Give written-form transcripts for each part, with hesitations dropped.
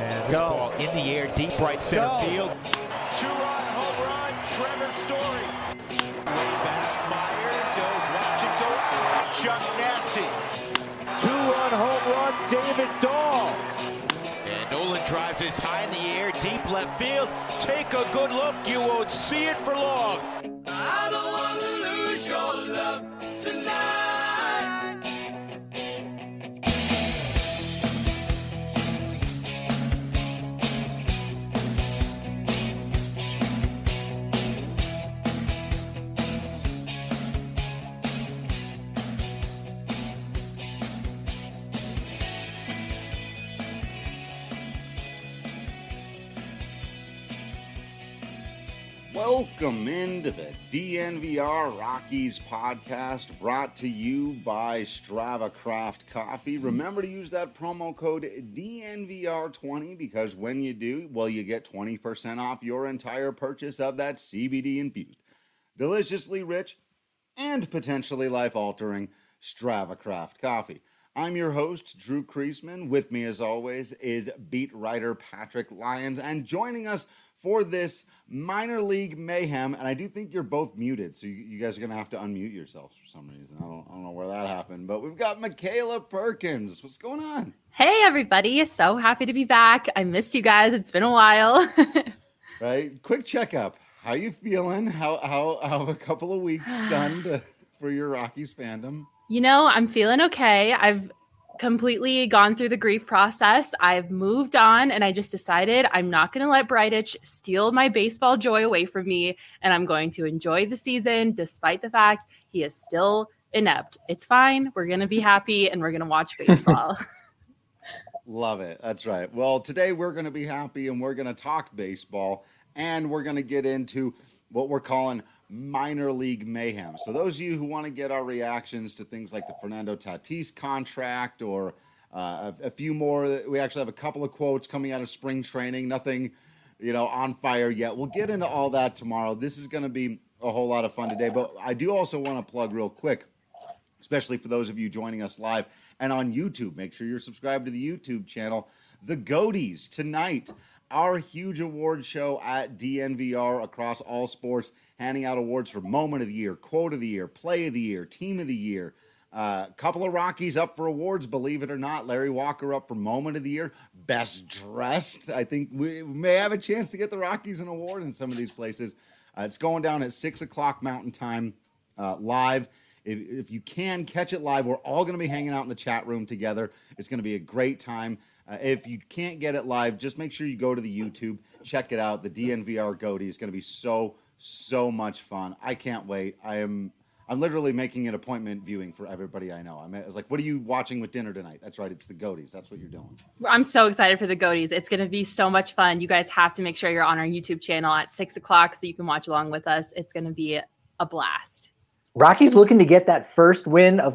And this ball in the air, deep right center field. Two-run home run, Trevor Story. Way back, Myers. Watch it go out. Chuck Nasty. Two-run home run, David Dahl. And Nolan drives this high in the air, deep left field. Take a good look, you won't see it for long. I don't want to lose your love tonight. Welcome into the DNVR Rockies podcast, brought to you by Strava Craft Coffee. Remember to use that promo code DNVR20 because when you do, well, you get 20% off your entire purchase of that CBD-infused, deliciously rich, and potentially life-altering Strava Craft Coffee. I'm your host, Drew Kreisman. With me, as always, is beat writer Patrick Lyons, and joining us for this minor league mayhem, and I do think you're both muted, so you guys are going to have to unmute yourselves for some reason. I don't know where that happened, but we've got Michaela Perkins. What's going on? Hey, everybody. So happy to be back. I missed you guys. It's been a while. Right? Quick checkup. How you feeling? How have a couple of weeks done for your Rockies fandom? You know, I'm feeling okay. I've completely gone through the grief process. I've moved on, and I just decided I'm not going to let Bridich steal my baseball joy away from me, and I'm going to enjoy the season despite the fact he is still inept. It's fine. We're going to be happy, and we're going to watch baseball. Love it. That's right. Well, today we're going to be happy, and we're going to talk baseball, and we're going to get into what we're calling minor league mayhem. So those of you who want to get our reactions to things like the Fernando Tatis contract or a few more, we actually have a couple of quotes coming out of spring training, nothing, on fire yet. We'll get into all that tomorrow. This is going to be a whole lot of fun today, but I do also want to plug real quick, especially for those of you joining us live and on YouTube. Make sure you're subscribed to the YouTube channel. The Goaties tonight, our huge award show at DNVR across all sports, handing out awards for Moment of the Year, Quote of the Year, Play of the Year, Team of the Year. Couple of Rockies up for awards, believe it or not. Larry Walker up for Moment of the Year, Best Dressed. I think we may have a chance to get the Rockies an award in some of these places. It's going down at 6 o'clock Mountain Time live. If you can catch it live, we're all going to be hanging out in the chat room together. It's going to be a great time. If you can't get it live, just make sure you go to the YouTube, check it out. The DNVR Goatee is going to be so much fun. I can't wait. I'm literally making an appointment viewing for everybody I know. I was like, what are you watching with dinner tonight? That's right. It's the Goatees. That's what you're doing. I'm so excited for the Goatees. It's going to be so much fun. You guys have to make sure you're on our YouTube channel at 6 o'clock so you can watch along with us. It's going to be a blast. Rockies looking to get that first win of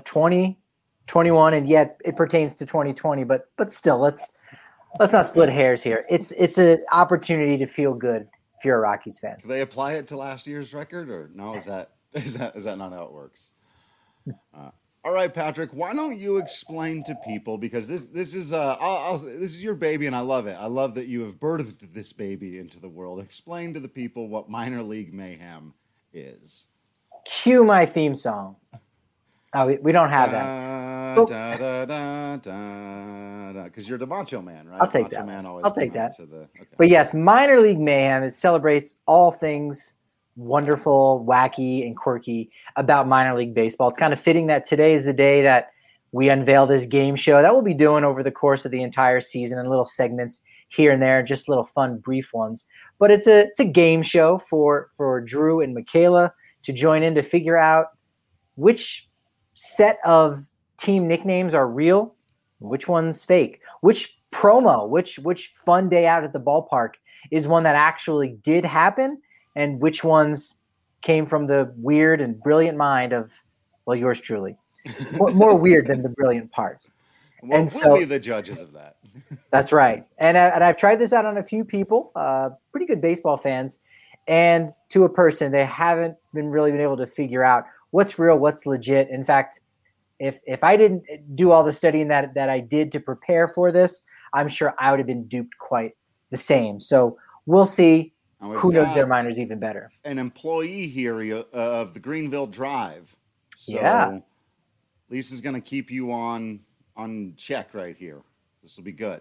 2021, and yet it pertains to 2020, but still, let's not split hairs here. It's an opportunity to feel good if you're a Rockies fan. Do they apply it to last year's record, or no? Is that not how it works? All right, Patrick, why don't you explain to people, because this is this is your baby and I love it. I love that you have birthed this baby into the world. Explain to the people what minor league mayhem is. Cue my theme song. Oh, we don't have that. Because you're the Macho Man, right? I'll take Macho that. Man always I'll take that. Okay. But yes, minor league mayhem celebrates all things wonderful, wacky, and quirky about minor league baseball. It's kind of fitting that today is the day that we unveil this game show that we'll be doing over the course of the entire season in little segments here and there, just little fun, brief ones. But it's a game show for Drew and Michaela to join in to figure out which set of team nicknames are real, which one's fake, which promo, which fun day out at the ballpark is one that actually did happen, and which ones came from the weird and brilliant mind of, well, yours truly. More weird than the brilliant part. Well, and we'll be the judges of that. That's right. And I've tried this out on a few people, pretty good baseball fans, and to a person, they haven't really been able to figure out what's real, what's legit. In fact, if I didn't do all the studying that I did to prepare for this, I'm sure I would have been duped quite the same. So we'll see who knows their minors even better. An employee here of the Greenville Drive. So yeah. Lisa's going to keep you on check right here. This will be good.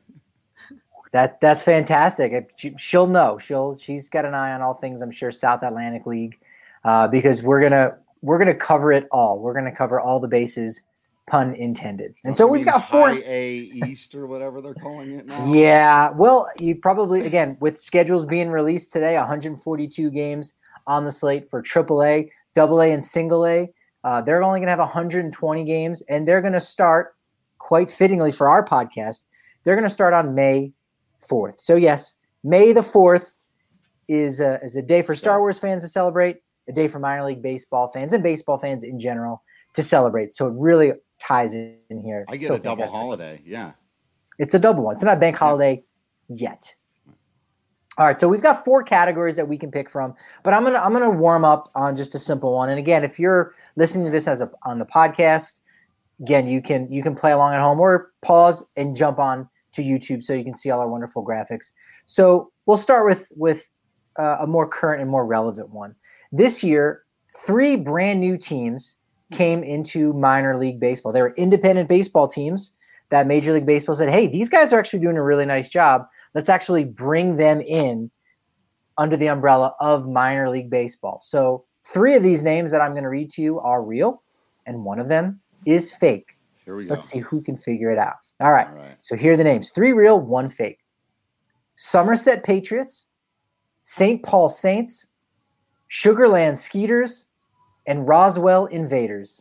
That's fantastic. She'll know. She's got an eye on all things, I'm sure, South Atlantic League, because we're gonna cover it all. We're gonna cover all the bases, pun intended. And so we've got 4 A East or whatever they're calling it now. Yeah. Well, you probably, again, with schedules being released today, 142 games on the slate for AAA, AA, and Single A. They're only gonna have 120 games, and they're gonna start, quite fittingly for our podcast, they're gonna start on May 4th. So yes, May the 4th is a day for Star Wars fans to celebrate, a day for minor league baseball fans and baseball fans in general to celebrate. So it really ties in here. I get a double holiday. Yeah. It's a double one. It's not a bank holiday yet. All right, so we've got 4 categories that we can pick from, but I'm gonna warm up on just a simple one. And again, if you're listening to this on the podcast, again, you can play along at home or pause and jump on to YouTube so you can see all our wonderful graphics. So we'll start with a more current and more relevant one. This year, 3 brand new teams came into minor league baseball. They were independent baseball teams that Major League Baseball said, hey, these guys are actually doing a really nice job. Let's actually bring them in under the umbrella of minor league baseball. So 3 of these names that I'm going to read to you are real, and one of them is fake. Here we go. Let's see who can figure it out. All right. So here are the names. 3 real, 1 fake. Somerset Patriots, St. Paul Saints, Sugarland Skeeters, and Roswell Invaders.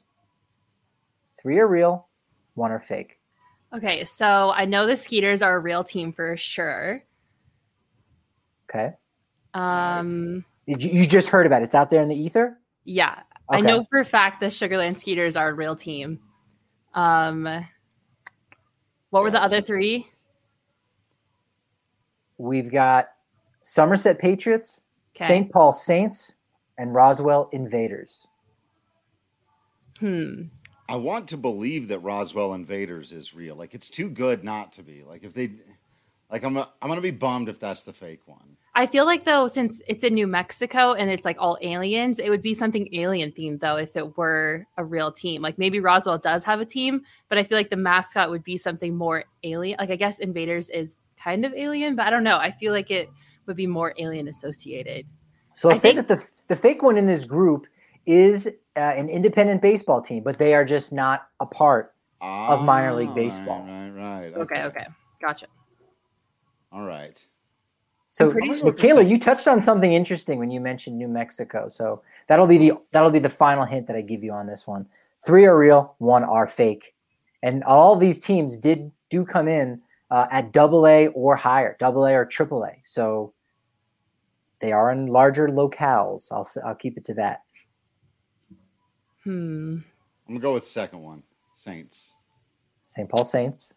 3 are real, 1 are fake. Okay, so I know the Skeeters are a real team for sure. Okay. You just heard about it. It's out there in the ether? Yeah. Okay. I know for a fact the Sugarland Skeeters are a real team. What were the other 3? We've got Somerset Patriots, St. Paul Saints, and Roswell Invaders. I want to believe that Roswell Invaders is real. Like, it's too good not to be. Like, if they, like, I'm gonna be bummed if that's the fake one. I feel like, though, since it's in New Mexico and it's like all aliens, it would be something alien themed, though, if it were a real team. Like, maybe Roswell does have a team, but I feel like the mascot would be something more alien. Like, I guess Invaders is kind of alien, but I don't know. I feel like it would be more alien associated. So I'll say that the fake one in this group is an independent baseball team, but they are just not a part of minor league baseball. Right. Okay. Gotcha. All right. So, Michaela, you touched on something interesting when you mentioned New Mexico. So that'll be the final hint that I give you on this one. 3 are real, 1 are fake, and all these teams do come in at AA or higher, AA or AAA. So they are in larger locales. I'll keep it to that. I'm gonna go with second one, Saints. St. Paul Saints.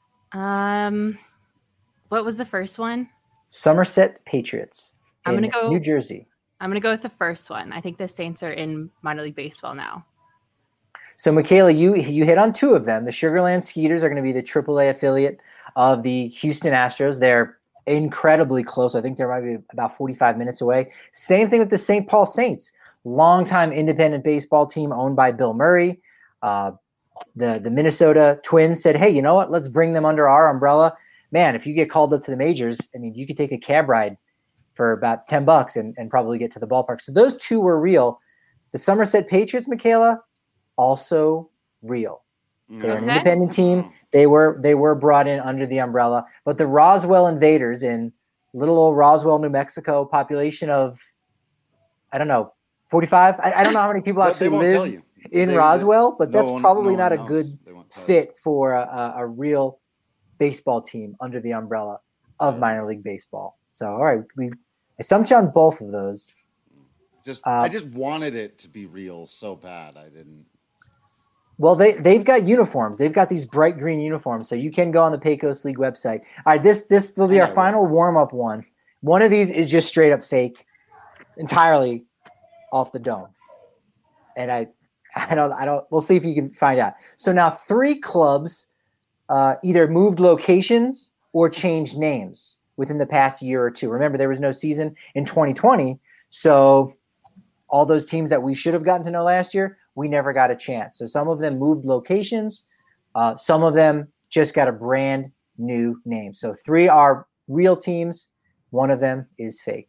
What was the first one? Somerset Patriots. I'm gonna go New Jersey. I'm gonna go with the first one. I think the Saints are in minor league baseball now. So, Michaela, you hit on 2 of them. The Sugarland Skeeters are going to be the AAA affiliate of the Houston Astros. They're incredibly close. I think they might be about 45 minutes away. Same thing with the St. Paul Saints, longtime independent baseball team owned by Bill Murray. The Minnesota Twins said, hey, you know what? Let's bring them under our umbrella. Man, if you get called up to the majors, I mean, you could take a cab ride for about $10 and probably get to the ballpark. So those 2 were real. The Somerset Patriots, Michaela, also real. They're an independent team. They were brought in under the umbrella. But the Roswell Invaders in little old Roswell, New Mexico, population of, I don't know, 45? I don't know how many people actually live in Roswell, but that's probably not a good fit for a real baseball team under the umbrella of minor league baseball. So, all right, I stumped you on both of those. I just wanted it to be real so bad. I didn't. Well, they've got uniforms. They've got these bright green uniforms, so you can go on the Pecos League website. All right, this will be our final warm-up one. One of these is just straight up fake, entirely off the dome. And I don't. We'll see if you can find out. So now 3 clubs either moved locations or changed names within the past year or two. Remember, there was no season in 2020, so all those teams that we should have gotten to know last year, we never got a chance. So some of them moved locations. Some of them just got a brand new name. So 3 are real teams. One of them is fake.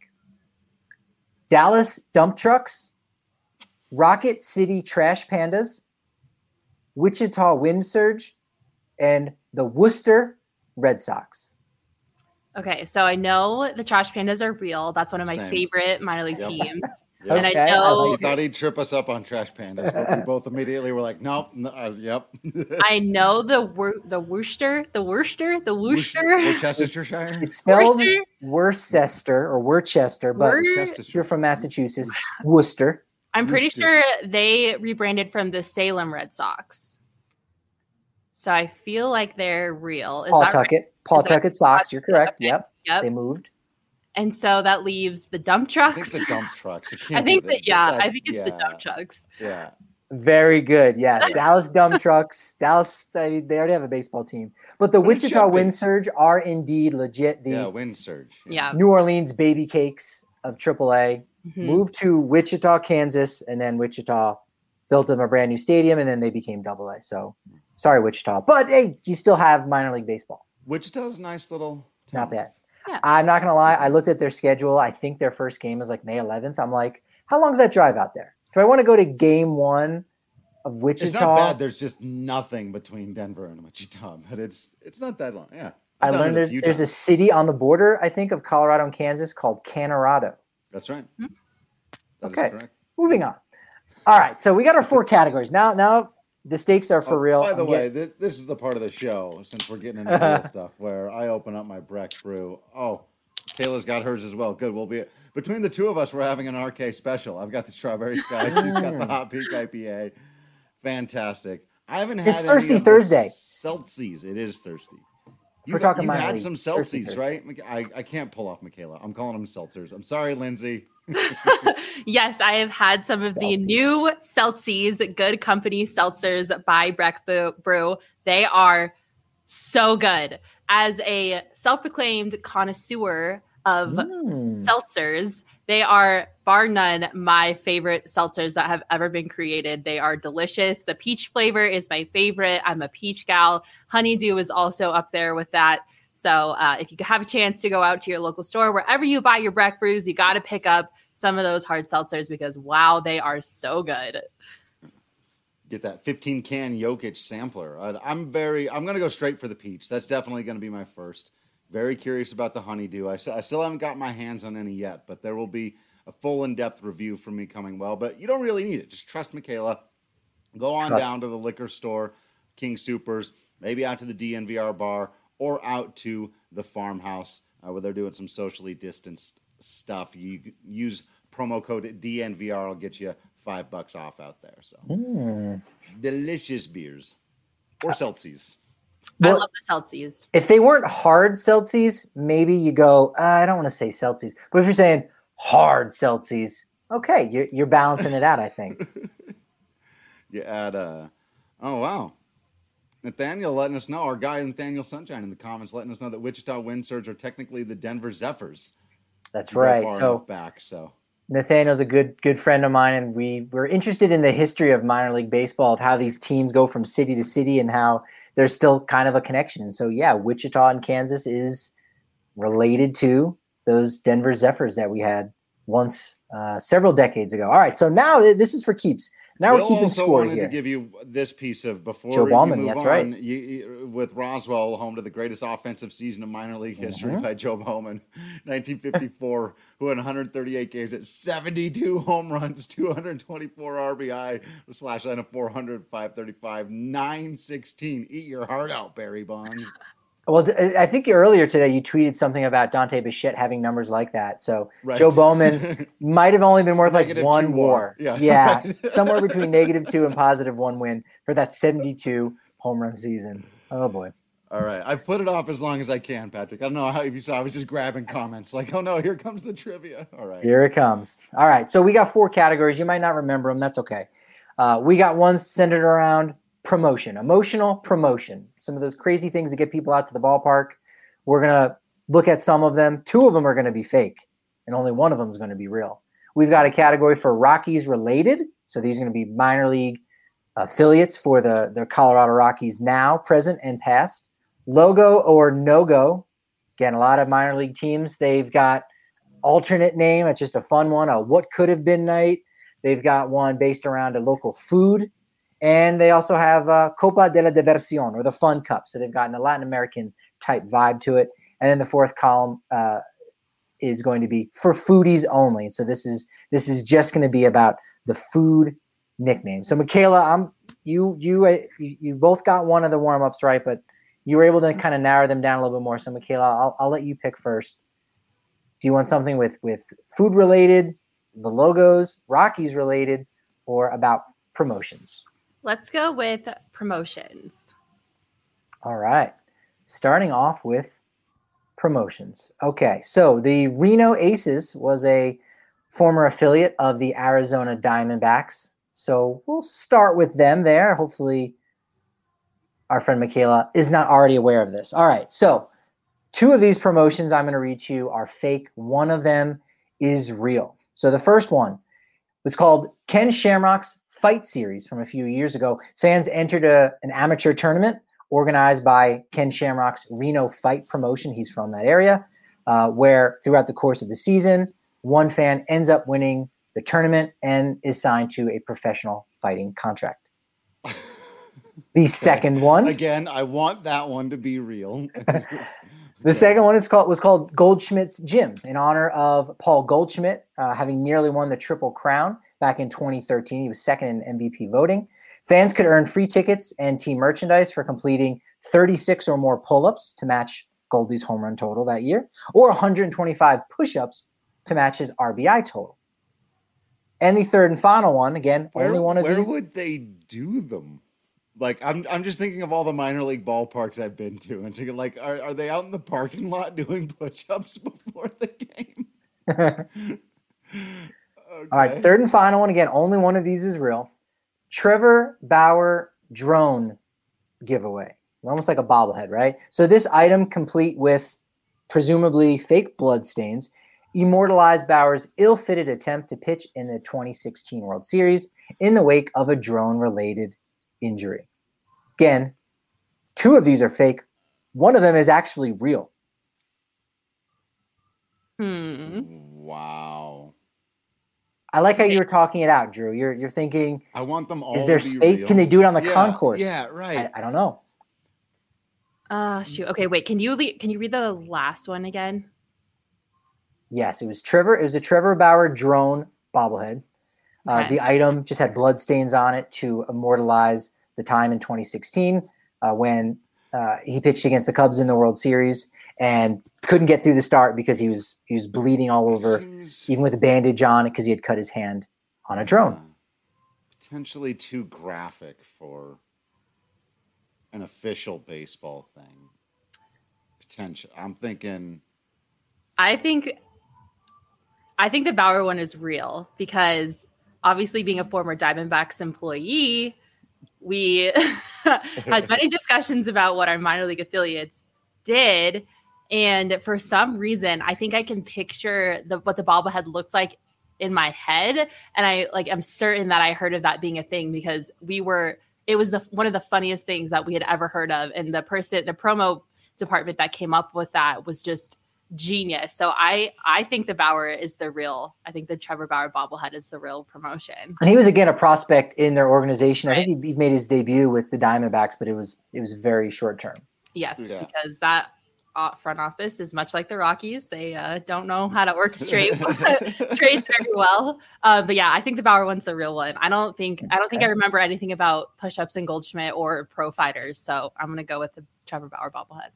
Dallas Dump Trucks, Rocket City Trash Pandas, Wichita Wind Surge, and the Worcester Red Sox. Okay, so I know the Trash Pandas are real. That's one of my Same. favorite minor league teams. Yep. And Okay, I know We thought he'd trip us up on Trash Pandas, but we both immediately were like, nope. Yep. I know the Worcester. Worcestershire. It's spelled Worcester? Worcester or Worcester, but if you're from Massachusetts, Worcester. I'm pretty Worcester. sure they rebranded from the Salem Red Sox. So I feel like they're real. Is Paul that right? Tuckett. Paul Is that- Tuckett Sox. You're correct. Okay. Yep. Yep. They moved. And so that leaves the dump I trucks. think the dump trucks. It I can't be think the- that, yeah, that- I think it's the yeah, dump trucks. Yeah. Very good. Yes. Dallas Dump Trucks. Dallas, I mean, they already have a baseball team. But the But it Wichita should be. Wind Surge are indeed legit the Yeah, wind surge. Yeah. New Orleans baby cakes of AAA. Mhm. Moved to Wichita, Kansas, and then Wichita built them a brand new stadium, and then they became AA. So sorry, Wichita. But hey, you still have minor league baseball. Wichita's a nice little town. Not bad. Yeah. I'm not going to lie. I looked at their schedule. I think their first game is like May 11th. I'm like, how long is that drive out there? Do I want to go to game 1 of Wichita? It's not bad. There's just nothing between Denver and Wichita, but it's not that long. Yeah. I I've done learned it a few there's a times. city on the border, I think, of Colorado and Kansas called Colorado. That's right. Hmm. That is Okay. correct. Moving on. All right. So we got our 4 categories. Now the stakes are for Oh, real. By the I'm way, this is the part of the show, since we're getting into real stuff, where I open up my Breck brew. Oh, Kayla's got hers as well. Good. We'll be between the two of us. We're having an RK special. I've got the strawberry sky. She's got the hot peak IPA. Fantastic. I haven't had It's Thirsty any of Thursday. the Celsius. It is thirsty. We're talking you've minor had league. some Thirsty Celsius, right? I can't pull off Michaela. I'm calling them seltzers. I'm sorry, Lindsay. Yes, I have had some of the Seltzies. new Celsius Good Company seltzers by Breck Brew. They are so good. As a self-proclaimed connoisseur of seltzers, they are bar none my favorite seltzers that have ever been created. They are delicious. The peach flavor is my favorite. I'm a peach gal. Honeydew is also up there with that. So if you have a chance to go out to your local store, wherever you buy your Breck brews, you got to pick up some of those hard seltzers because, wow, they are so good. Get that 15 can Jokic sampler. I'm going to go straight for the peach. That's definitely going to be my first. Very curious about the honeydew. I still haven't got my hands on any yet, but there will be a full in-depth review from me coming well. But you don't really need it. Just trust Michaela. Go on down to the liquor store, King Supers, maybe out to the DNVR bar, or out to the farmhouse where they're doing some socially distanced stuff. You use promo code DNVR, it'll get you $5 off out there. So delicious beers or Celsius. I Well, love the Celsius. if they weren't hard Celsius, maybe you go, I don't want to say Celsius. But if you're saying hard Celsius, okay, you're balancing it out, I think. You add oh wow. Nathaniel letting us know, our guy Nathaniel Sunshine in the comments letting us know that Wichita Wind Surge are technically the Denver Zephyrs. That's You go right. far So enough back, so Nathaniel's a good friend of mine, and we're interested in the history of minor league baseball, of how these teams go from city to city and how there's still kind of a connection. And so, yeah, Wichita and Kansas is related to those Denver Zephyrs that we had once several decades ago. All right, so now this is for keeps. Now we're Bill keeping also score wanted here. to give you this piece of before Joe you Bauman, move that's on, right. with Roswell, home to the greatest offensive season of minor league history Mm-hmm. by Joe Bauman, 1954, who had 138 games at 72 home runs, 224 RBI, slash line of 400, 535, 916. Eat your heart out, Barry Bonds. Well, I think earlier today you tweeted something about Dante Bichette having numbers like that. So Right. Joe Bowman might have only been worth like Negative one 2 WAR. WAR. Yeah. Yeah, somewhere between -2 and +1 win for that 72 home run season. Oh boy. All right. I've put it off as long as I can, Patrick. I don't know how if you saw. I was just grabbing comments like, oh no, here comes the trivia. All right. Here it comes. All right, so we got 4 categories. You might not remember them. That's okay. We got one centered around promotion, emotional promotion. Some of those crazy things that get people out to the ballpark. We're going to look at some of them. 2 of them are going to be fake, and only 1 of them is going to be real. We've got a category for Rockies related. So these are going to be minor league affiliates for the Colorado Rockies now, present, and past. Logo or no-go. Again, a lot of minor league teams, they've got alternate name. It's just a fun one, a what could have been night. They've got one based around a local food. And they also have Copa de la Diversión, or the Fun Cup. So they've gotten a Latin American type vibe to it. And then the 4th column is going to be for foodies only. So this is just going to be about the food nickname. So Michaela, you both got one of the warm-ups right, but you were able to kind of narrow them down a little bit more. So Michaela, I'll let you pick first. Do you want something with food related, the logos, Rockies related, or about promotions? Let's go with promotions. All right. Starting off with promotions. Okay. So the Reno Aces was a former affiliate of the Arizona Diamondbacks. So we'll start with them there. Hopefully our friend Michaela is not already aware of this. All right. So 2 of these promotions I'm going to read to you are fake. 1 of them is real. So the first one was called Ken Shamrock's Fight Series from a few years ago. Fans entered an amateur tournament organized by Ken Shamrock's Reno Fight promotion. He's from that area, where throughout the course of the season, one fan ends up winning the tournament and is signed to a professional fighting contract. The second one. Again, I want that one to be real. The second one was called Goldschmidt's Gym in honor of Paul Goldschmidt, having nearly won the Triple Crown back in 2013. He was second in MVP voting. Fans could earn free tickets and team merchandise for completing 36 or more pull-ups to match Goldie's home run total that year, or 125 push-ups to match his RBI total. And the third and final one, again, only one of these. Where would they do them? Like, I'm just thinking of all the minor league ballparks I've been to, and thinking, like, are they out in the parking lot doing push-ups before the game? Okay. All right, third and final one. Again, only one of these is real. Trevor Bauer drone giveaway. Almost like a bobblehead, right? So this item, complete with presumably fake blood stains, immortalized Bauer's ill-fitted attempt to pitch in the 2016 World Series in the wake of a drone-related injury. Again, 2 of these are fake. 1 of them is actually real. Wow. I like how you were talking it out, Drew. You're thinking, I want them all. Is there to be space? real. Can they do it on the concourse? Yeah, right. I don't know. Shoot. Okay, wait. Can you read the last one again? Yes, it was Trevor. It was a Trevor Bauer drone bobblehead. Okay. The item just had blood stains on it to immortalize the time in 2016 when he pitched against the Cubs in the World Series and couldn't get through the start because he was bleeding all over, even with a bandage on it because he had cut his hand on a drone. Potentially too graphic for an official baseball thing. Potential. I'm thinking. I think the Bauer one is real because obviously being a former Diamondbacks employee, we had many discussions about what our minor league affiliates did. And for some reason, I think I can picture what the bobblehead looked like in my head. And I'm certain that I heard of that being a thing because it was one of the funniest things that we had ever heard of. And the promo department that came up with that was just genius. So I think the Bauer is the real. I think the Trevor Bauer bobblehead is the real promotion. And he was again a prospect in their organization. Right. I think he made his debut with the Diamondbacks, but it was very short term. Yes, because that front office is much like the Rockies. They don't know how to orchestrate trades very well. But yeah, I think the Bauer one's the real one. I don't think I remember anything about push-ups and Goldschmidt or pro fighters. So I'm gonna go with the Trevor Bauer bobblehead.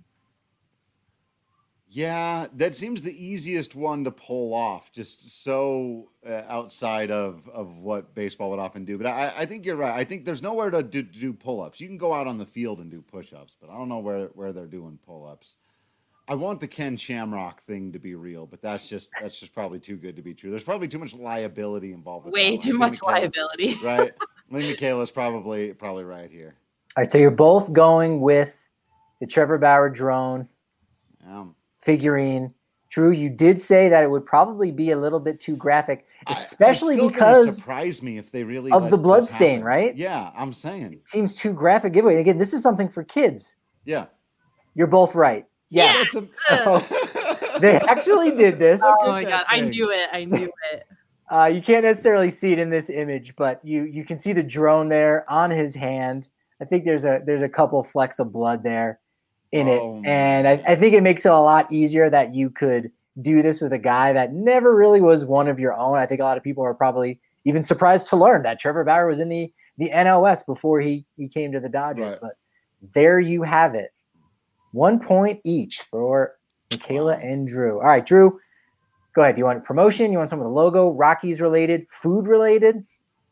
Yeah, that seems the easiest one to pull off, just so outside of what baseball would often do. But I think you're right. I think there's nowhere to do pull-ups. You can go out on the field and do push-ups, but I don't know where they're doing pull-ups. I want the Ken Shamrock thing to be real, but that's just probably too good to be true. There's probably too much liability involved with Way too much liability. Right? I think Michaela's probably right here. All right, so you're both going with the Trevor Bauer drone figurine. Drew, you did say that it would probably be a little bit too graphic, especially it's still because surprise me if they really of the blood stain, right? Yeah, I'm saying it seems too graphic giveaway. Again, this is something for kids. Yeah, you're both right. Yes. Yeah. So they actually did this. Oh my God, I knew it. You can't necessarily see it in this image, but you can see the drone there on his hand. I think there's a couple flecks of blood there in it. And I think it makes it a lot easier that you could do this with a guy that never really was one of your own. I think a lot of people are probably even surprised to learn that Trevor Bauer was in the NOS before he came to the Dodgers. Right. But there you have it. 1 point each for Michaela and Drew. All right, Drew, go ahead. Do you want promotion? You want some of the logo, Rockies related, food related?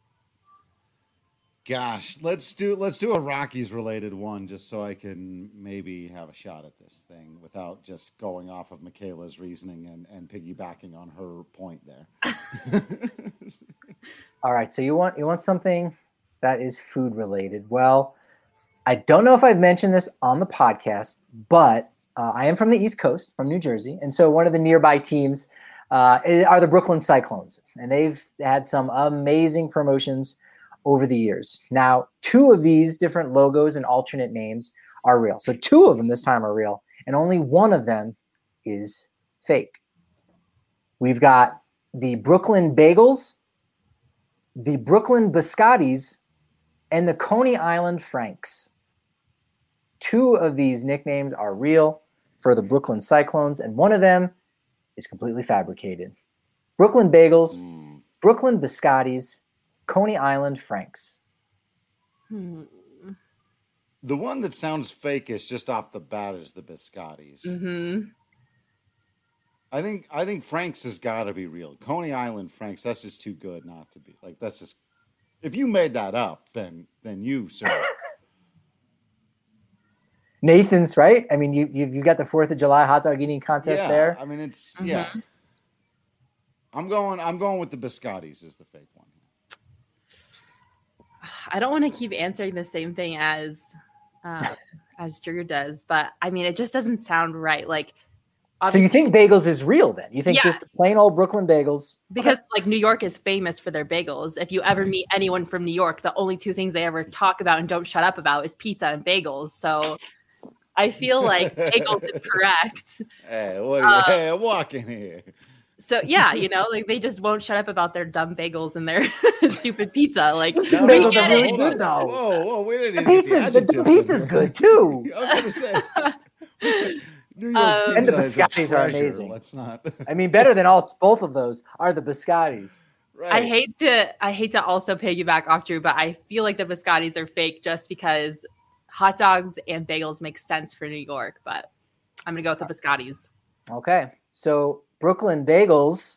Gosh, let's do a Rockies related one just so I can maybe have a shot at this thing without just going off of Michaela's reasoning and piggybacking on her point there. All right, so you want something that is food related. Well, I don't know if I've mentioned this on the podcast, but I am from the East Coast, from New Jersey. And so one of the nearby teams are the Brooklyn Cyclones. And they've had some amazing promotions over the years. Now, 2 of these different logos and alternate names are real. So 2 of them this time are real. And only 1 of them is fake. We've got the Brooklyn Bagels, the Brooklyn Biscottis, and the Coney Island Franks. 2 of these nicknames are real for the Brooklyn Cyclones, and 1 of them is completely fabricated. Brooklyn Bagels, Brooklyn Biscottis, Coney Island Franks. The one that sounds fakeish just off the bat is the Biscottis. Mm-hmm. I think Franks has got to be real. Coney Island Franks, that's just too good not to be. Like, that's just, if you made that up, then you, sir. Nathan's right. I mean, you got the 4th of July hot dog eating contest there. I mean, it's I'm going with the Biscottis as the fake one. I don't want to keep answering the same thing as Drew does, but I mean, it just doesn't sound right. Like, so you think bagels is real then? You think just plain old Brooklyn bagels? Because like New York is famous for their bagels. If you ever meet anyone from New York, the only 2 things they ever talk about and don't shut up about is pizza and bagels. So I feel like bagels is correct. Hey, what are you? I'm walking here. So yeah, like they just won't shut up about their dumb bagels and their stupid pizza. Like bagels are really good though. Whoa, wait a minute. The pizza's good too. I was gonna say. New York and the Biscottis are amazing. Let's not. I mean, better than both of those are the Biscottis. Right. I hate to also piggyback off Drew, but I feel like the Biscottis are fake just because hot dogs and bagels make sense for New York. But I'm gonna go with the Biscottis. Okay, so Brooklyn Bagels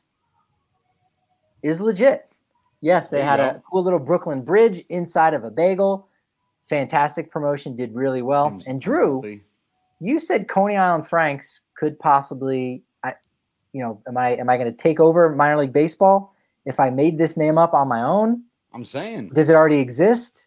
is legit. Yes, they had a cool little Brooklyn Bridge inside of a bagel. Fantastic promotion, did really well. Seems and Drew, healthy. You said Coney Island Franks could possibly, am I going to take over minor league baseball if I made this name up on my own? I'm saying. Does it already exist?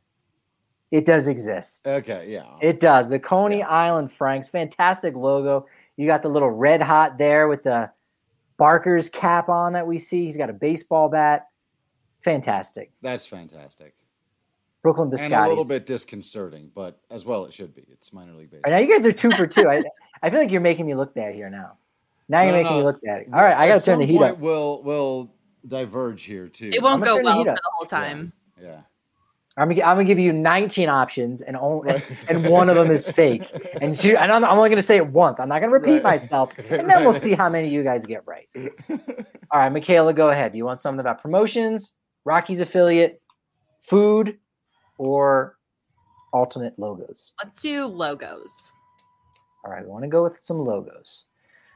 It does exist. Okay, yeah. It does. The Coney Island Franks, fantastic logo. You got the little red hot there with the Barker's cap on that we see. He's got a baseball bat. Fantastic. That's fantastic. Brooklyn Biscottis. And a little bit disconcerting, but as well it should be. It's minor league baseball. Right, now you guys are 2 for 2. I feel like you're making me look bad here now. Now you're making me look bad. All right, I got to turn the heat up. We'll diverge here too. It won't go well for the whole time. Yeah. I'm gonna give you 19 options, and one of them is fake. And I'm only gonna say it once. I'm not gonna repeat myself, and then we'll see how many of you guys get right. All right, Michaela, go ahead. Do you want something about promotions, Rockies affiliate, food, or alternate logos? Let's do logos. All right, we want to go with some logos.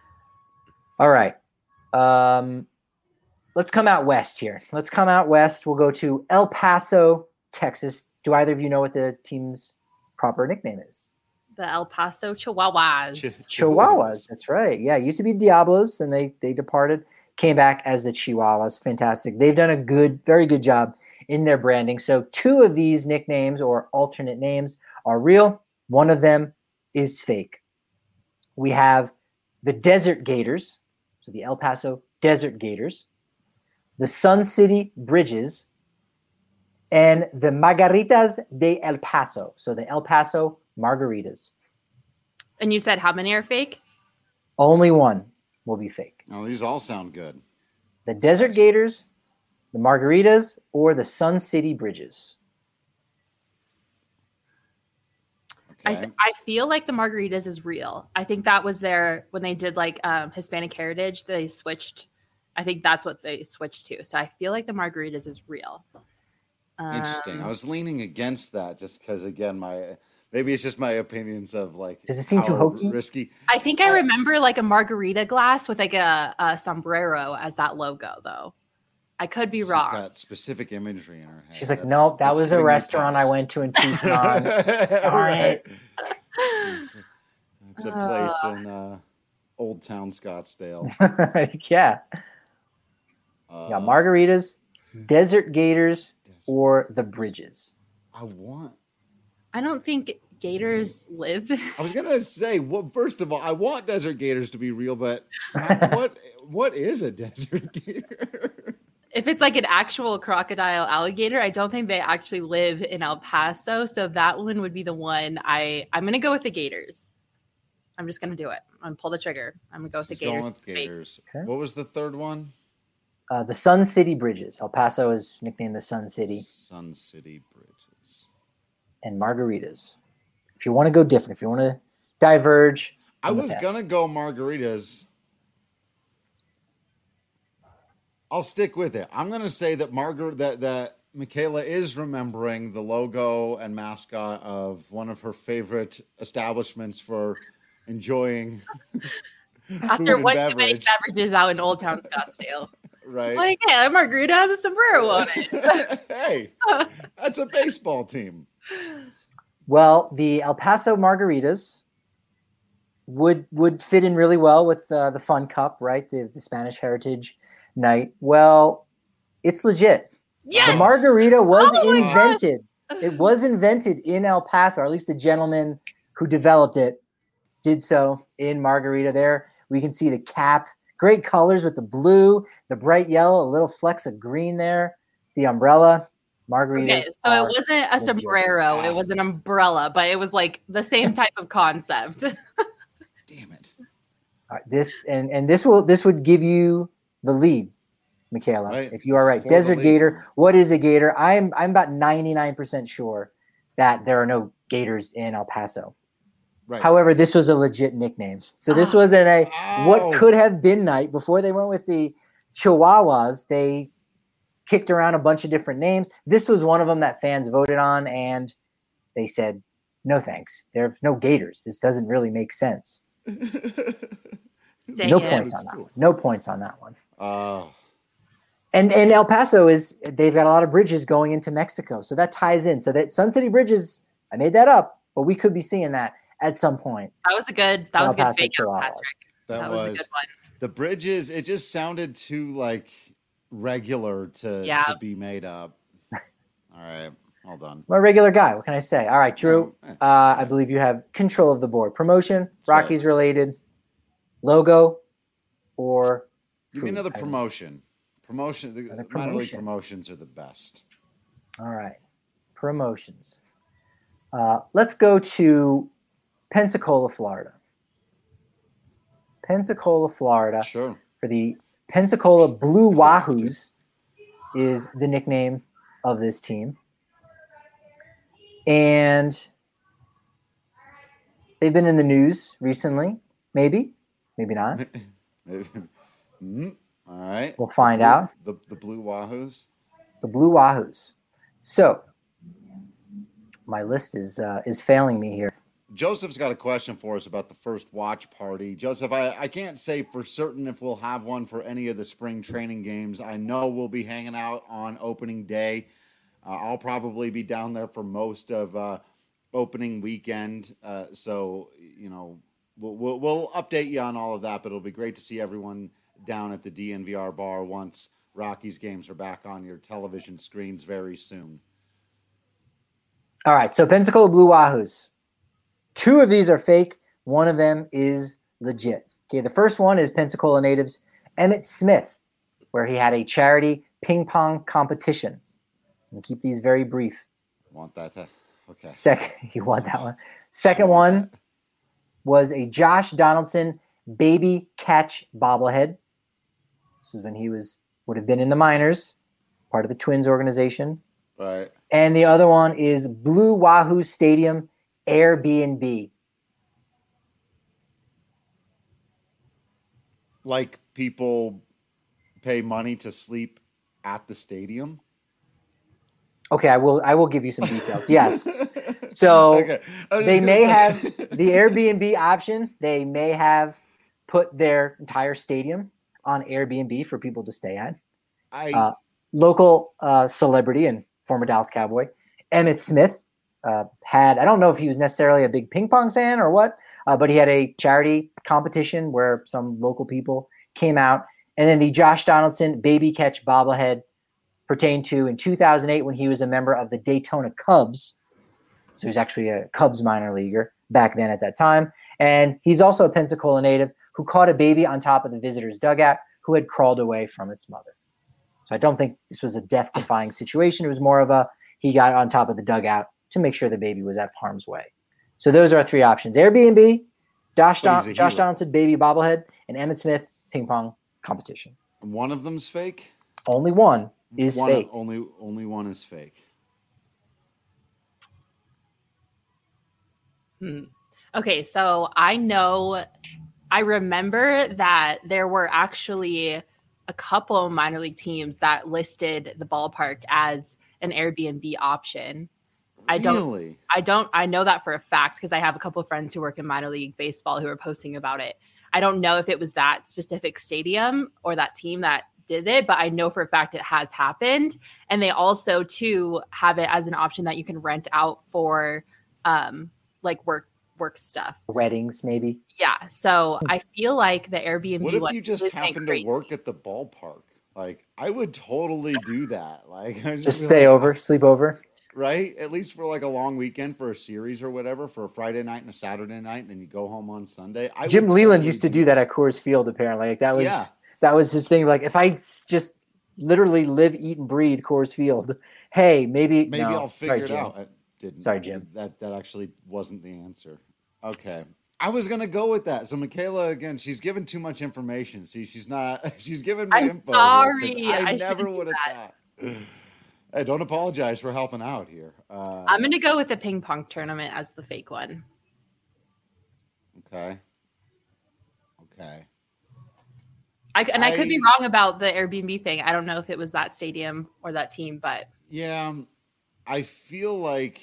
All right. Let's come out west here. We'll go to El Paso, Texas. Do either of you know what the team's proper nickname is? The El Paso Chihuahuas. Chihuahuas, that's right. Yeah, it used to be Diablos, and they departed, came back as the Chihuahuas. Fantastic. They've done a very good job in their branding. So 2 of these nicknames or alternate names are real. One of them is fake. We have the Desert Gators, so the El Paso Desert Gators, the Sun City Bridges, and the Margaritas de El Paso, so the El Paso Margaritas. And you said how many are fake? Only one will be fake. Oh, these all sound good. The Desert Gators, the Margaritas, or the Sun City Bridges. Okay. I feel like the Margaritas is real. I think that was when they did like Hispanic Heritage, they switched. I think that's what they switched to. So I feel like the Margaritas is real. Interesting. I was leaning against that just because, again, maybe it's just my opinions of like. Does it seem too how hokey? Risky. I think I remember like a margarita glass with like a sombrero as that logo, though. I could be wrong. She's got specific imagery in her head. She's like, nope, that was a restaurant I went to in Tucson. Darn it. It's a place in Old Town Scottsdale. Yeah. Yeah, Margaritas, Desert Gators, or the Bridges. I don't think gators live. I was gonna say, well, first of all, I want desert gators to be real, but what is a desert gator? If it's like an actual crocodile alligator, I don't think they actually live in El Paso. So that one would be the one I'm going to go with the Gators. I'm just going to do it. I'm going to pull the trigger. I'm going to go with the Gators. Going with Gators. Okay. What was the third one? The Sun City Bridges. El Paso is nicknamed the Sun City. Sun City Bridges. And Margaritas. If you want to go different, if you want to diverge. I was going to go Margaritas. I'll stick with it. I'm going to say that that Michaela is remembering the logo and mascot of one of her favorite establishments for enjoying after one too many beverages out in Old Town Scottsdale. Right. It's like, hey, that margarita has a sombrero on it. Hey, that's a baseball team. Well, the El Paso Margaritas would fit in really well with the Fun Cup, right? The Spanish Heritage Night. Well, it's legit. Yes! The margarita was invented. It was invented in El Paso, or at least the gentleman who developed it did so in Margarita. There we can see the cap, great colors with the blue, the bright yellow, a little flecks of green there, the umbrella. Margaritas. Okay, so it wasn't a sombrero, it was an umbrella, but it was like the same type of concept. Damn it. All right, this would give you the lead, Michaela. Right. If you are right. Desert Gator. What is a gator? I'm about 99% sure that there are no gators in El Paso. Right. However, this was a legit nickname. So this was what could have been night. Before they went with the Chihuahuas, they kicked around a bunch of different names. This was one of them that fans voted on, and they said, no thanks. There's no gators. This doesn't really make sense. No points on that one. No points on that one. And El Paso they've got a lot of bridges going into Mexico. So that ties in. So that Sun City Bridges, I made that up, but we could be seeing that at some point. That was a good fake out, Patrick. That was a good one. The bridges, it just sounded too like regular to be made up. All right. All done. I'm a regular guy. What can I say? All right, Drew. I believe you have control of the board. Promotion, That's Rockies related, logo, or give me another promotion. Promotion. The minor league promotions are the best. All right, promotions. Let's go to Pensacola, Florida. Pensacola, Florida. Sure. For the Pensacola Blue Wahoos is the nickname of this team. And they've been in the news recently. Maybe not. All right. We'll find out. The Blue Wahoos. The Blue Wahoos. So my list is failing me here. Joseph's got a question for us about the first watch party. Joseph, I can't say for certain if we'll have one for any of the spring training games. I know we'll be hanging out on opening day. I'll probably be down there for most of opening weekend. So, you know, we'll update you on all of that, but it'll be great to see everyone down at the DNVR bar once Rockies games are back on your television screens very soon. All right, so Pensacola Blue Wahoos. 2 of these are fake. 1 of them is legit. Okay, the first one is Pensacola natives Emmitt Smith, where he had a charity ping pong competition. And keep these very brief. Want that? Okay. Second, you want that one. Second one was a Josh Donaldson baby catch bobblehead. This was when he would have been in the minors, part of the Twins organization. Right. And the other one is Blue Wahoo Stadium Airbnb. Like people pay money to sleep at the stadium? Okay, I will give you some details. Yes. So Okay. they may have the Airbnb option. They may have put their entire stadium on Airbnb for people to stay at. Local celebrity and former Dallas Cowboy, Emmitt Smith, had, I don't know if he was necessarily a big ping pong fan or what, but he had a charity competition where some local people came out. And then the Josh Donaldson baby catch bobblehead pertained to in 2008 when he was a member of the Daytona Cubs. So he was actually a Cubs minor leaguer back then at that time. And he's also a Pensacola native who caught a baby on top of the visitor's dugout who had crawled away from its mother. So I don't think this was a death-defying situation. It was more of he got on top of the dugout to make sure the baby was at harm's way. So those are our 3 options. Airbnb, Josh Donaldson baby bobblehead, and Emmitt Smith ping pong competition. One of them's fake? Only one is fake. Only one is fake. Okay, so I remember that there were actually a couple minor league teams that listed the ballpark as an Airbnb option. Really? I know that for a fact because I have a couple of friends who work in minor league baseball who are posting about it. I don't know if it was that specific stadium or that team that did it, but I know for a fact it has happened. And they also too have it as an option that you can rent out for like work stuff. Weddings, maybe. Yeah. So I feel like the Airbnb. What if you just happen to work at the ballpark? Like, I would totally do that. Like, just stay over, sleep over. Right? At least for like a long weekend for a series or whatever, for a Friday night and a Saturday night, and then you go home on Sunday. Jim Leland used to do that at Coors Field, apparently. Like that was his thing. Like, if I just literally live, eat, and breathe Coors Field, hey, maybe I'll figure it out. Sorry, Jim. That actually wasn't the answer. Okay. I was going to go with that. So Michaela, again, she's given too much information. See, she's giving me info. Sorry. I never would have thought. Hey, don't apologize for helping out here. I'm going to go with the ping pong tournament as the fake one. Okay. I could be wrong about the Airbnb thing. I don't know if it was that stadium or that team, but. Yeah, I feel like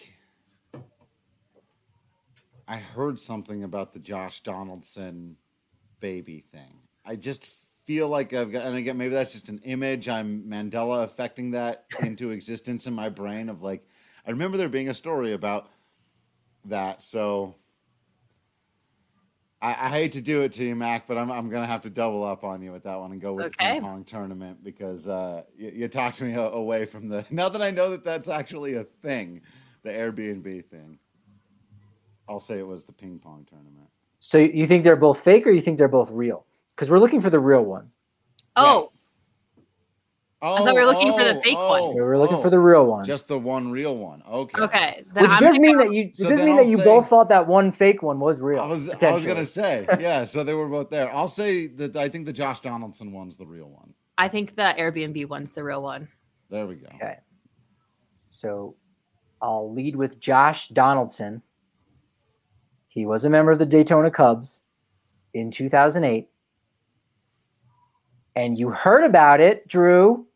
I heard something about the Josh Donaldson baby thing. I just feel like I've got, and again, maybe that's just an image. I'm Mandela affecting that into existence in my brain of like, I remember there being a story about that. So I hate to do it to you, Mac, but I'm going to have to double up on you with that one and go with the ping pong tournament because you talked me away from now that I know that that's actually a thing, the Airbnb thing. I'll say it was the ping pong tournament. So you think they're both fake or you think they're both real? Because we're looking for the real one. Oh. I thought we were looking for the fake one. We were looking for the real one. Just the one real one. Okay. Okay. Which does mean that you both thought that one fake one was real. I was going to say, yeah, so they were both there. I'll say that I think the Josh Donaldson one's the real one. I think the Airbnb one's the real one. There we go. Okay. So I'll lead with Josh Donaldson. He was a member of the Daytona Cubs in 2008. And you heard about it, Drew,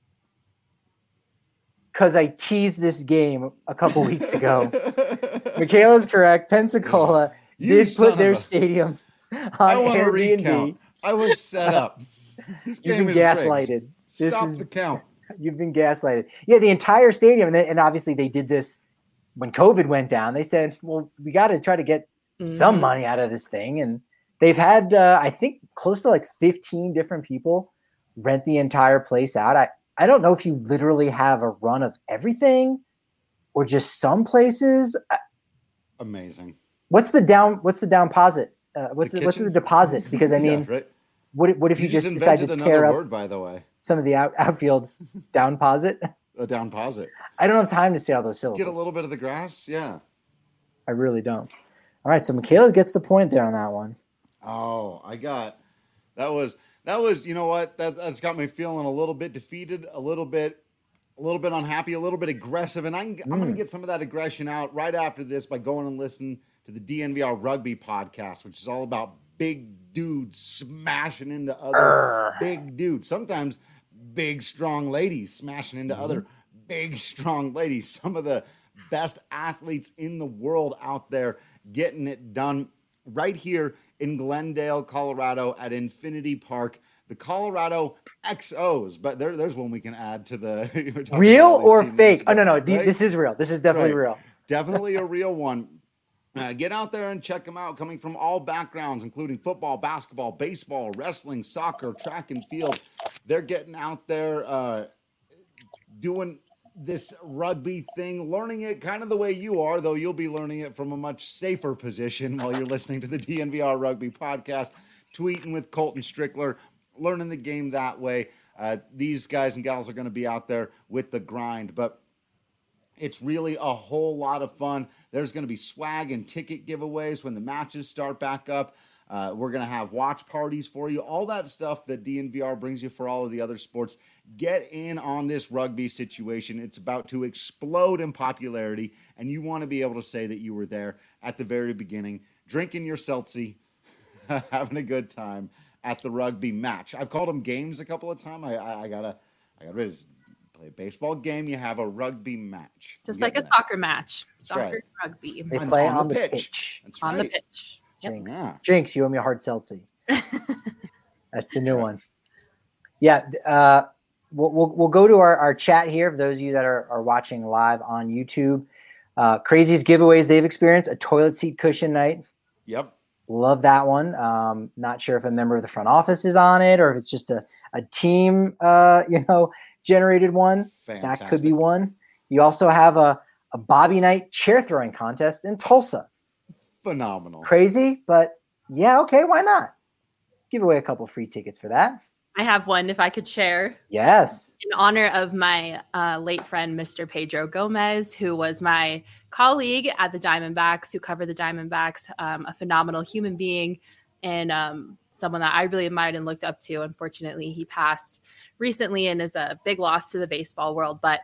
because I teased this game a couple weeks ago. Michaela's correct. Pensacola did put their stadium on Airbnb. I was set up. This game You've been gaslighted. Stop the count. You've been gaslighted. Yeah, the entire stadium. And obviously they did this when COVID went down. They said, well, we got to try to get some money out of this thing. And they've had, I think, close to like 15 different people rent the entire place out. I don't know if you literally have a run of everything or just some places. Amazing. What's the down deposit? What's the deposit? Because I mean, right. What if you just decide to invented tear another up word, by the way. some of the outfield down posit? A down posit. I don't have time to say all those syllables. Get a little bit of the grass, yeah. I really don't. All right, so Michaela gets the point there on that one. Oh, that was you know what? That's got me feeling a little bit defeated, a little bit unhappy, a little bit aggressive, and I'm going to get some of that aggression out right after this by going and listening to the DNVR Rugby podcast, which is all about big dudes smashing into other big dudes. Sometimes big, strong ladies smashing into other big, strong ladies. Some of the best athletes in the world out there getting it done right here in Glendale, Colorado at Infinity Park. The Colorado XOs, but there's one we can add to the real or fake. Ago, no, right? This is real. This is definitely real. Definitely a real one. Get out there and check them out, coming from all backgrounds, including football, basketball, baseball, wrestling, soccer, track and field. They're getting out there doing this rugby thing, learning it kind of the way you are, though you'll be learning it from a much safer position while you're listening to the DNVR Rugby podcast, tweeting with Colton Strickler, learning the game that way. These guys and gals are going to be out there with the grind, but it's really a whole lot of fun. There's going to be swag and ticket giveaways when the matches start back up. We're going to have watch parties for you. All that stuff that DNVR brings you for all of the other sports. Get in on this rugby situation. It's about to explode in popularity, and you want to be able to say that you were there at the very beginning, drinking your seltzy, having a good time at the rugby match. I've called them games a couple of times. I got rid of play a baseball game, you have a rugby match. Just like a soccer match. Soccer right. Rugby. They play on the pitch. That's on right. the pitch. Jinx. Yeah. Jinx, you owe me a hard seltzy. That's the new one. Yeah. We'll go to our chat here for those of you that are watching live on YouTube. Craziest giveaways they've experienced: a toilet seat cushion night. Yep. Love that one. Not sure if a member of the front office is on it or if it's just a team, generated one. Fantastic. That could be one. You also have a Bobby Knight chair throwing contest in Tulsa. Phenomenal. Crazy, but yeah, okay, why not? Give away a couple free tickets for that. I have one if I could share. Yes. In honor of my late friend, Mr. Pedro Gomez, who was my colleague at the Diamondbacks, who covered the Diamondbacks, a phenomenal human being and someone that I really admired and looked up to. Unfortunately, he passed recently and is a big loss to the baseball world. But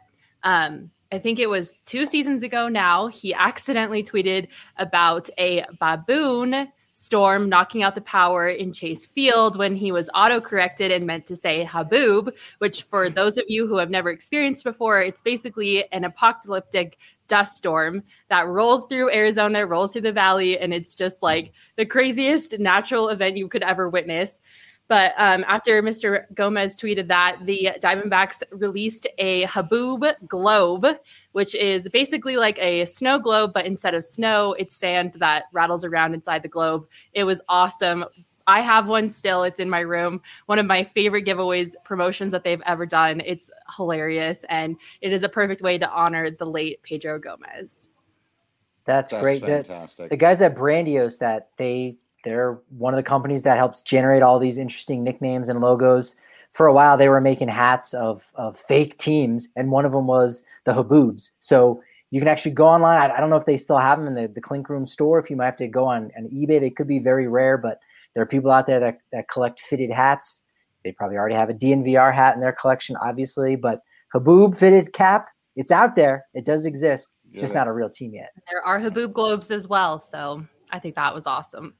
I think it was 2 seasons ago now, he accidentally tweeted about a baboon storm knocking out the power in Chase Field when he was autocorrected and meant to say haboob, which for those of you who have never experienced before, it's basically an apocalyptic dust storm that rolls through Arizona, rolls through the valley, and it's just like the craziest natural event you could ever witness. But after Mr. Gomez tweeted that, the Diamondbacks released a Haboob globe, which is basically like a snow globe, but instead of snow, it's sand that rattles around inside the globe. It was awesome. I have one still. It's in my room. One of my favorite giveaways promotions that they've ever done. It's hilarious, and it is a perfect way to honor the late Pedro Gomez. That's great. Fantastic. The guys at Brandios, they're one of the companies that helps generate all these interesting nicknames and logos. For a while, they were making hats of fake teams, and one of them was the Haboobs. So you can actually go online. I don't know if they still have them in the Clink Room store. If you might have to go on eBay, they could be very rare, but there are people out there that collect fitted hats. They probably already have a DNVR hat in their collection, obviously, but Haboob fitted cap, it's out there. It does exist, just not a real team yet. There are Haboob globes as well, so I think that was awesome.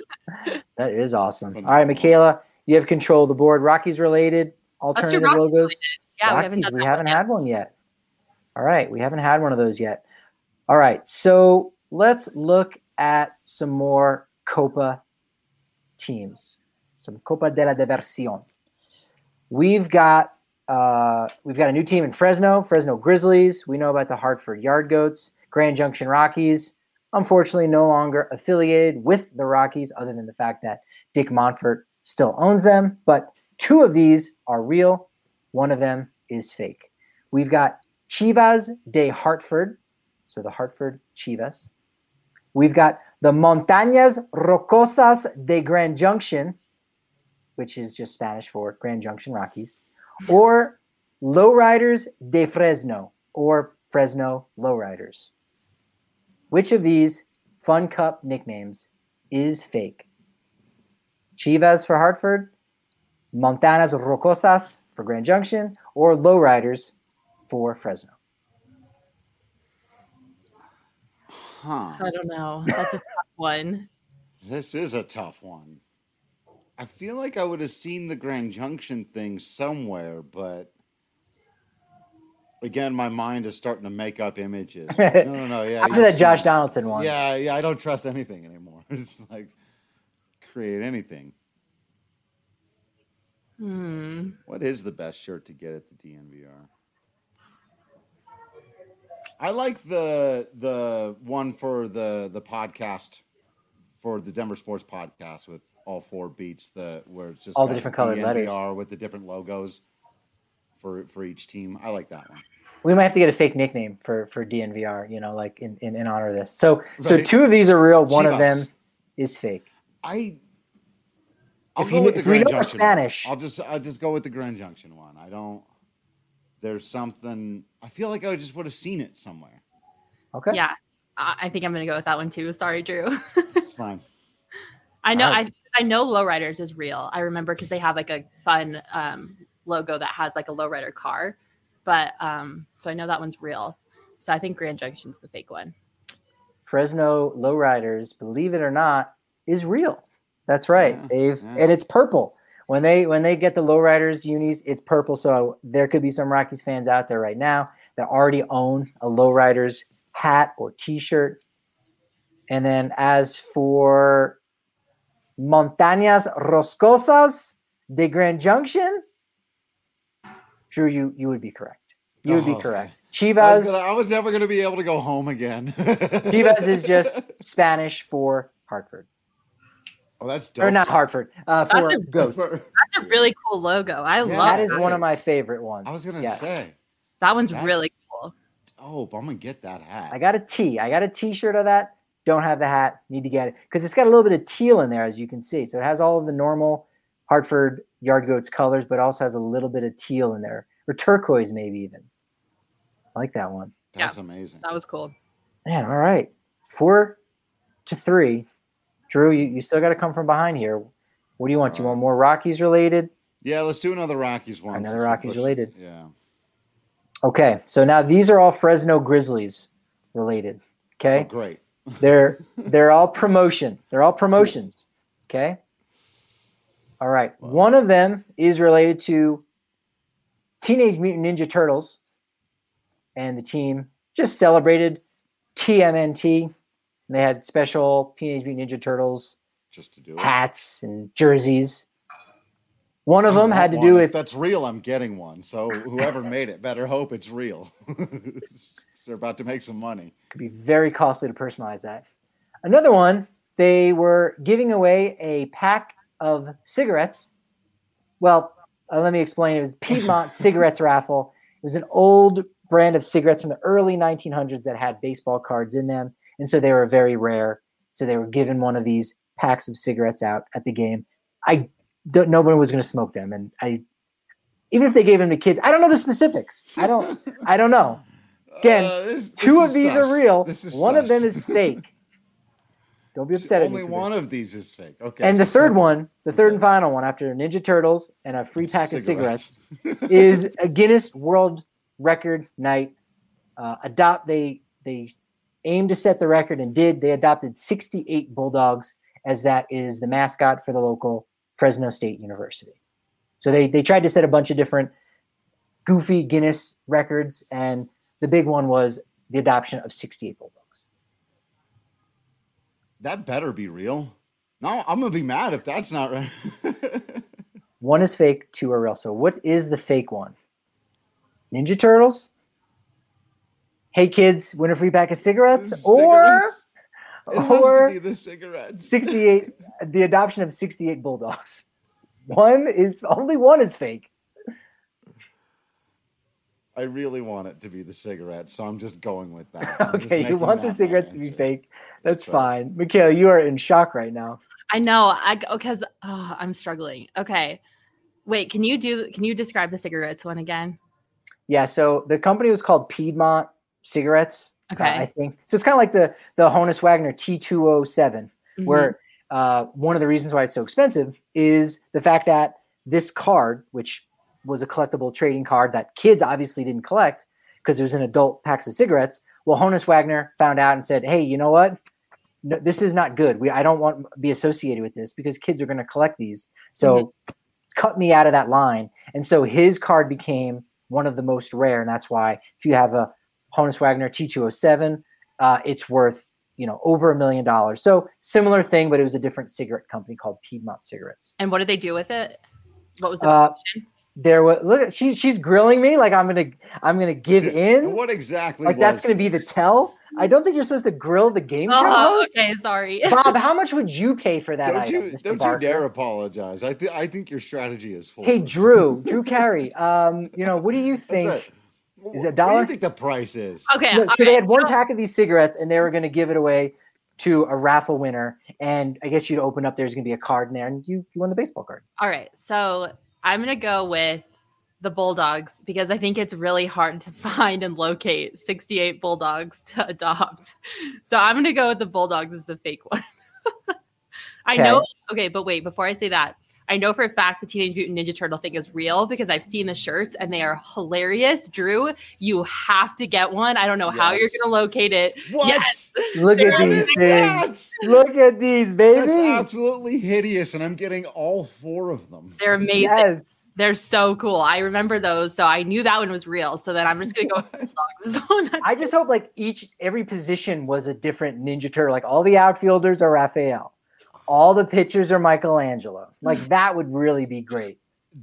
That is awesome. All right, Michaela, you have control of the board. Rockies related alternative logos. Related. Yeah, Rockies, we haven't had one yet. All right, we haven't had one of those yet. All right, so let's look at some more Copa teams, some Copa de la Diversión. We've got a new team in Fresno Grizzlies. We know about the Hartford Yard Goats, Grand Junction Rockies. Unfortunately, no longer affiliated with the Rockies, other than the fact that Dick Monfort still owns them. But 2 of these are real. 1 of them is fake. We've got Chivas de Hartford, so the Hartford Chivas. We've got the Montañas Rocosas de Grand Junction, which is just Spanish for Grand Junction Rockies, or Lowriders de Fresno, or Fresno Lowriders. Which of these Fun Cup nicknames is fake? Chivas for Hartford, Montañas Rocosas for Grand Junction, or Lowriders for Fresno? Huh. I don't know. That's a tough one. This is a tough one. I feel like I would have seen the Grand Junction thing somewhere, but again, my mind is starting to make up images. No. Yeah, After that Josh Donaldson one. Yeah. I don't trust anything anymore. It's like create anything. What is the best shirt to get at the DNVR? I like the one for the podcast for the Denver Sports Podcast with all 4 beats, where it's just all the different colored letters with the different logos for each team. I like that one. We might have to get a fake nickname for DNVR, like in honor of this. So Right. 2 of these are real. One of them Chivas. is fake. I'll If go you- with the if we Grand know Junction Spanish- one. I'll just go with the Grand Junction one. There's something. I feel like I just would have seen it somewhere. Okay. Yeah, I think I'm going to go with that one too. Sorry, Drew. It's fine. I know. All right. I know Lowriders is real. I remember because they have like a fun logo that has like a lowrider car, but so I know that one's real. So I think Grand Junction's the fake one. Fresno Lowriders, believe it or not, is real. That's right. Yeah. And it's purple. When they get the Lowriders unis, it's purple. So there could be some Rockies fans out there right now that already own a Lowriders hat or T-shirt. And then as for Montañas Roscosas de Grand Junction, Drew, you would be correct. You would be correct. Chivas. I was never going to be able to go home again. Chivas is just Spanish for Hartford. Oh, that's dope. Or not Hartford. For goats. That's a really cool logo. I love That is that. one of my favorite ones. I was going to Yes. say. That one's That's really cool. dope. I'm going to get that hat. I got a tee. I got a T-shirt of that. Don't have the hat. Need to get it because it's got a little bit of teal in there, as you can see. So it has all of the normal Hartford Yard Goats colors, but also has a little bit of teal in there, or turquoise maybe even. I like that one. That's amazing. That was cool. Man, all right. 4-3. Drew, you still got to come from behind here. What do you want? You want more Rockies related? Yeah, let's do another Rockies one. Another since we're Rockies pushing- related. Yeah. Okay, so now these are all Fresno Grizzlies related. Okay. Oh, great. They're all promotion. They're all promotions. Okay. All right. One of them is related to Teenage Mutant Ninja Turtles, and the team just celebrated TMNT. And they had special Teenage Mutant Ninja Turtles Just to do it. hats and jerseys. One of I them want had to one. do If with that's real, I'm getting one. So whoever made it better hope it's real. They're about to make some money. could be very costly to personalize that. Another one, they were giving away a pack of cigarettes. Well, let me explain. It was Piedmont Cigarettes Raffle. It was an old brand of cigarettes from the early 1900s that had baseball cards in them. And so they were very rare. So they were given one of these packs of cigarettes out at the game. Nobody was going to smoke them. And even if they gave them to kids, I don't know the specifics. I don't know. Again, two of these are real. One of them is fake. Don't be upset at me. Only one of these is fake. Okay. And the so third one, the third and final one, after Ninja Turtles and a free pack of cigarettes, is a Guinness World Record night. They aimed to set the record and did. They adopted 68 bulldogs, as that is the mascot for the local Fresno State University. So they tried to set a bunch of different goofy Guinness records, and the big one was the adoption of 68 bulldogs. That better be real. No, I'm going to be mad if that's not right. One is fake, 2 are real. So what is the fake one? Ninja Turtles? Hey kids, win a free pack of cigarettes? It has to Or be the cigarettes. 68, the adoption of 68 bulldogs. Only one is fake. I really want it to be the cigarettes, so I'm just going with that. I'm just Okay, you making want the that my cigarettes to be answer. fake. That's right. fine. Michaela, you are in shock right now. I know. Because I'm struggling. Okay. Wait, can you describe the cigarettes one again? Yeah, so the company was called Piedmont Cigarettes. Okay. I think. So it's kind of like the Honus Wagner T207, where one of the reasons why it's so expensive is the fact that this card, which was a collectible trading card that kids obviously didn't collect because it was in adult packs of cigarettes. Well, Honus Wagner found out and said, hey, you know what? No, this is not good. I don't want to be associated with this because kids are going to collect these. So cut me out of that line. And so his card became one of the most rare. And that's why if you have a Honus Wagner T207, it's worth, over $1 million. So similar thing, but it was a different cigarette company called Piedmont Cigarettes. And what did they do with it? What was the question? There was look. She's grilling me like I'm gonna give in. What exactly? Like that's gonna be the tell. I don't think you're supposed to grill the game show host. Okay, sorry. Bob, how much would you pay for that Don't item? you Mr. don't Barker? you dare apologize. I think your strategy is full. Hey, Drew Carey. What do you think? Is it $1? What do you think the price is? Okay. Look, so they had one pack of these cigarettes, and they were going to give it away to a raffle winner. And I guess you'd open up. There's going to be a card in there, and you won the baseball card. All right. So I'm going to go with the Bulldogs because I think it's really hard to find and locate 68 Bulldogs to adopt. So I'm going to go with the Bulldogs as the fake one. I know. Okay, but wait, before I say that, I know for a fact the Teenage Mutant Ninja Turtle thing is real because I've seen the shirts and they are hilarious. Drew, you have to get one. I don't know how you're going to locate it. What? Yes. Look at these things. Look at these, baby. That's absolutely hideous, and I'm getting all 4 of them. They're amazing. Yes. They're so cool. I remember those, so I knew that one was real. So then I'm just gonna go with Bulldogs. I just hope like every position was a different Ninja Turtle. Like all the outfielders are Raphael, all the pitchers are Michelangelo. Like that would really be great.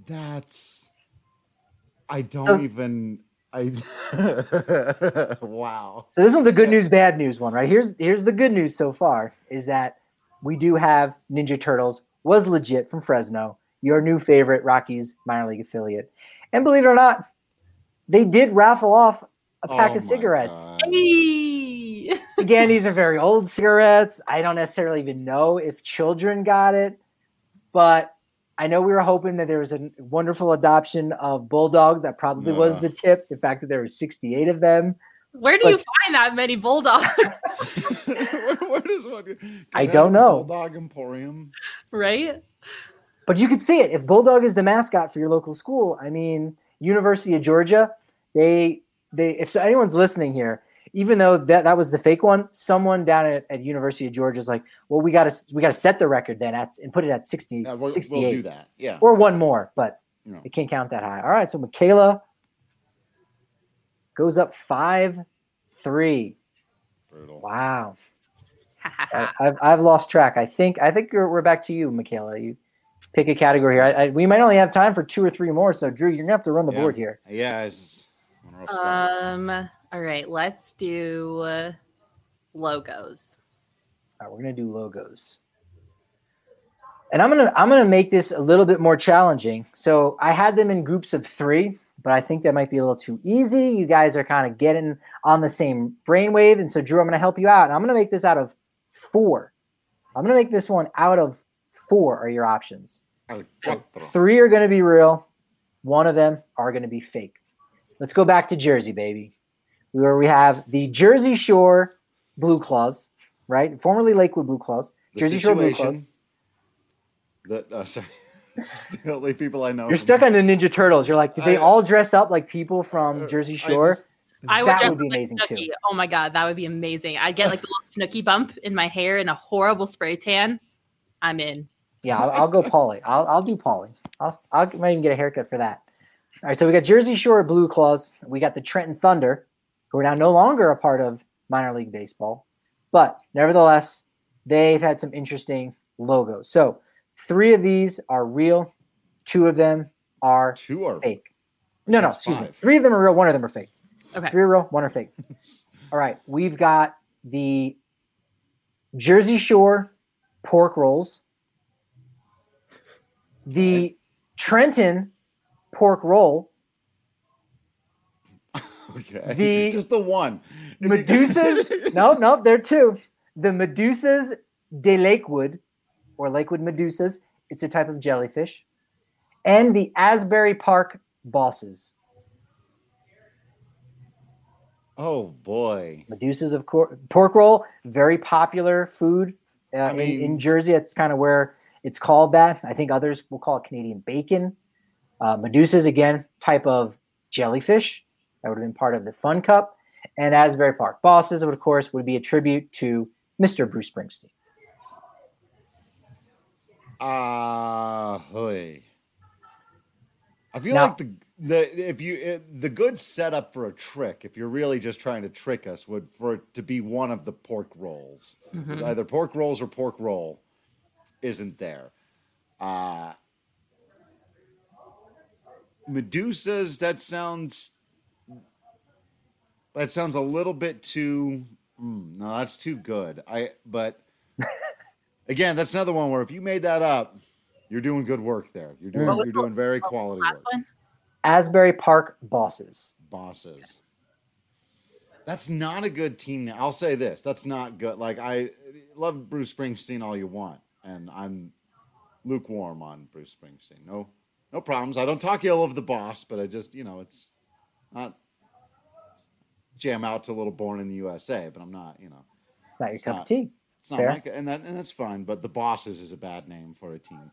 Wow. So this one's a good news, bad news one, right? Here's the good news so far is that we do have Ninja Turtles was legit from Fresno. Your new favorite Rockies minor league affiliate. And believe it or not, they did raffle off a pack of cigarettes. Hey! Again, these are very old cigarettes. I don't necessarily even know if children got it, but I know we were hoping that there was a wonderful adoption of Bulldogs. That probably was the tip, the fact that there were 68 of them. Where do you find that many Bulldogs? Where does one? I don't know. Bulldog Emporium. Right? But you could see it. If Bulldog is the mascot for your local school, I mean, University of Georgia, if anyone's listening here, even though that was the fake one, someone down at University of Georgia is like, well, we gotta set the record then and put it at 60. We'll 68. do that. Yeah. Or one more, but it can't count that high. All right, so Michaela goes up 5-3. Brutal. Wow. I've lost track. I think we're back to you, Michaela. You pick a category here. We might only have time for 2 or 3 more. So Drew, you're gonna have to run the board here. Yeah. All right. Let's do logos. All right, we're gonna do logos. And I'm gonna make this a little bit more challenging. So I had them in groups of 3, but I think that might be a little too easy. You guys are kind of getting on the same brainwave, and so Drew, I'm gonna help you out. And I'm gonna make this out of 4. I'm gonna make this one out of 4 are your options. So 3 are gonna be real. 1 of them are gonna be fake. Let's go back to Jersey, baby. Where we have the Jersey Shore Blue Claws, right? Formerly Lakewood Blue Claws. Jersey Shore Blue Claws. Sorry. This is the only people I know. You're stuck on the Ninja Turtles. You're like, did they all dress up like people from Jersey Shore? That would be amazing too. Oh my God, that would be amazing. I'd get like a little Snooki bump in my hair and a horrible spray tan. I'm in. Yeah, I'll go Pauly. I'll do Pauly. I might even get a haircut for that. All right, so we got Jersey Shore Blue Claws. We got the Trenton Thunder, who are now no longer a part of minor league baseball. But nevertheless, they've had some interesting logos. So 3 of these are real. 2 of them are fake. No, excuse me. 3 of them are real. 1 of them are fake. Okay. 3 are real. 1 are fake. All right. We've got the Jersey Shore pork rolls. The Trenton pork roll. Okay. Just the one. Medusas. no, there are two. The Medusas de Lakewood, or Lakewood Medusas. It's a type of jellyfish. And the Asbury Park Bosses. Oh, boy. Medusas, of course. Pork roll, very popular food in Jersey. That's kind of where it's called that. I think others will call it Canadian bacon. Medusas, again, type of jellyfish. That would have been part of the Fun Cup. And Asbury Park Bosses, of course, would be a tribute to Mr. Bruce Springsteen. I feel like the good setup for a trick, if you're really just trying to trick us, would for it to be one of the pork rolls. Mm-hmm. Either pork rolls or pork roll isn't there. Medusas, that sounds a little bit too. No, that's too good. But again, that's another one where if you made that up, you're doing good work there. You're doing very quality work. One? Asbury Park Bosses. Bosses. That's not a good team name. I'll say this. That's not good. Like, I love Bruce Springsteen all you want, and I'm lukewarm on Bruce Springsteen. No problems. I don't talk ill of the boss, but I just, it's not jam out to a little Born in the USA, but I'm not, It's not your cup of tea. It's not my, and that's fine, but the Bosses is a bad name for a team.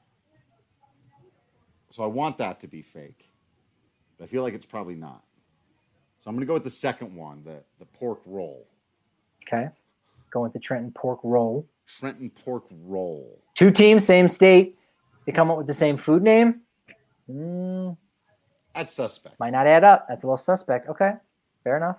So I want that to be fake. But I feel like it's probably not. So I'm going to go with the second one, the pork roll. Okay. Going with the Trenton pork roll. Trenton pork roll. Two teams, same state. They come up with the same food name. That's suspect. Might not add up. That's a little suspect. Okay. Fair enough.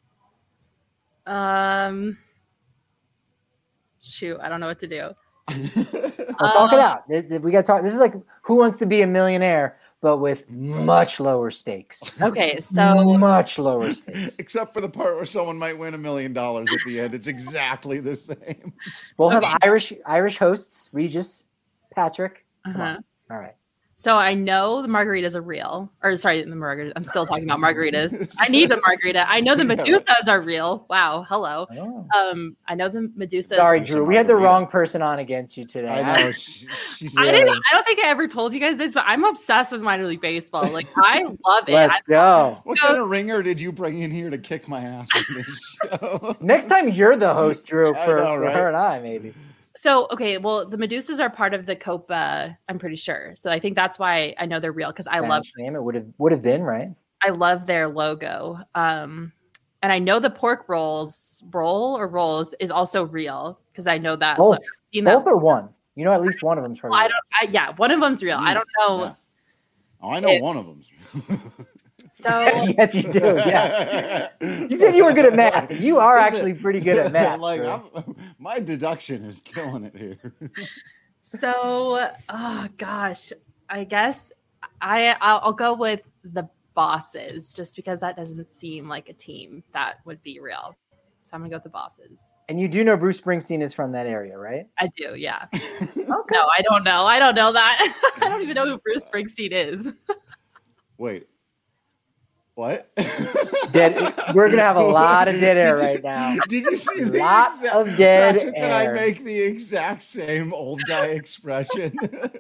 Shoot, I don't know what to do. Well, talk it out. We got to talk. This is like Who Wants to Be a Millionaire, but with much lower stakes. Okay, so much lower stakes. Except for the part where someone might win $1 million at the end. It's exactly the same. We'll have Irish hosts, Regis, Patrick. Uh-huh. All right. So I know the margaritas are real. Or sorry, the margaritas. I'm still talking about margaritas. I need the margarita. I know the Medusas are real. Wow. Hello. I know the Medusas. Sorry, Drew. We had the wrong person on against you today. I know. I don't think I ever told you guys this, but I'm obsessed with minor league baseball. Like, I love it. Let's go. What kind of ringer did you bring in here to kick my ass in this show? Next time you're the host, Drew, for her and I, maybe. So, okay, well, the Medusas are part of the Copa, I'm pretty sure. So I think that's why I know they're real, because I love them. It would have been, right? I love their logo. And I know the pork rolls is also real, because I know that. Both are one. At least one of them's real. One of them's real. I don't know. Yeah. Oh, I know one of them. So yes, you do. Yeah, you said you were good at math. You are actually pretty good at math. My deduction is killing it here. So, oh gosh, I guess I'll go with the Bosses, just because that doesn't seem like a team that would be real. So I'm gonna go with the Bosses. And you do know Bruce Springsteen is from that area, right? I do, yeah. Okay. No, I don't know. I don't know that. I don't even know who Bruce Springsteen is. Wait. What? We're gonna have a lot of dead air right now. Did you see the lots of dead Patrick, air? Can I make the exact same old guy expression?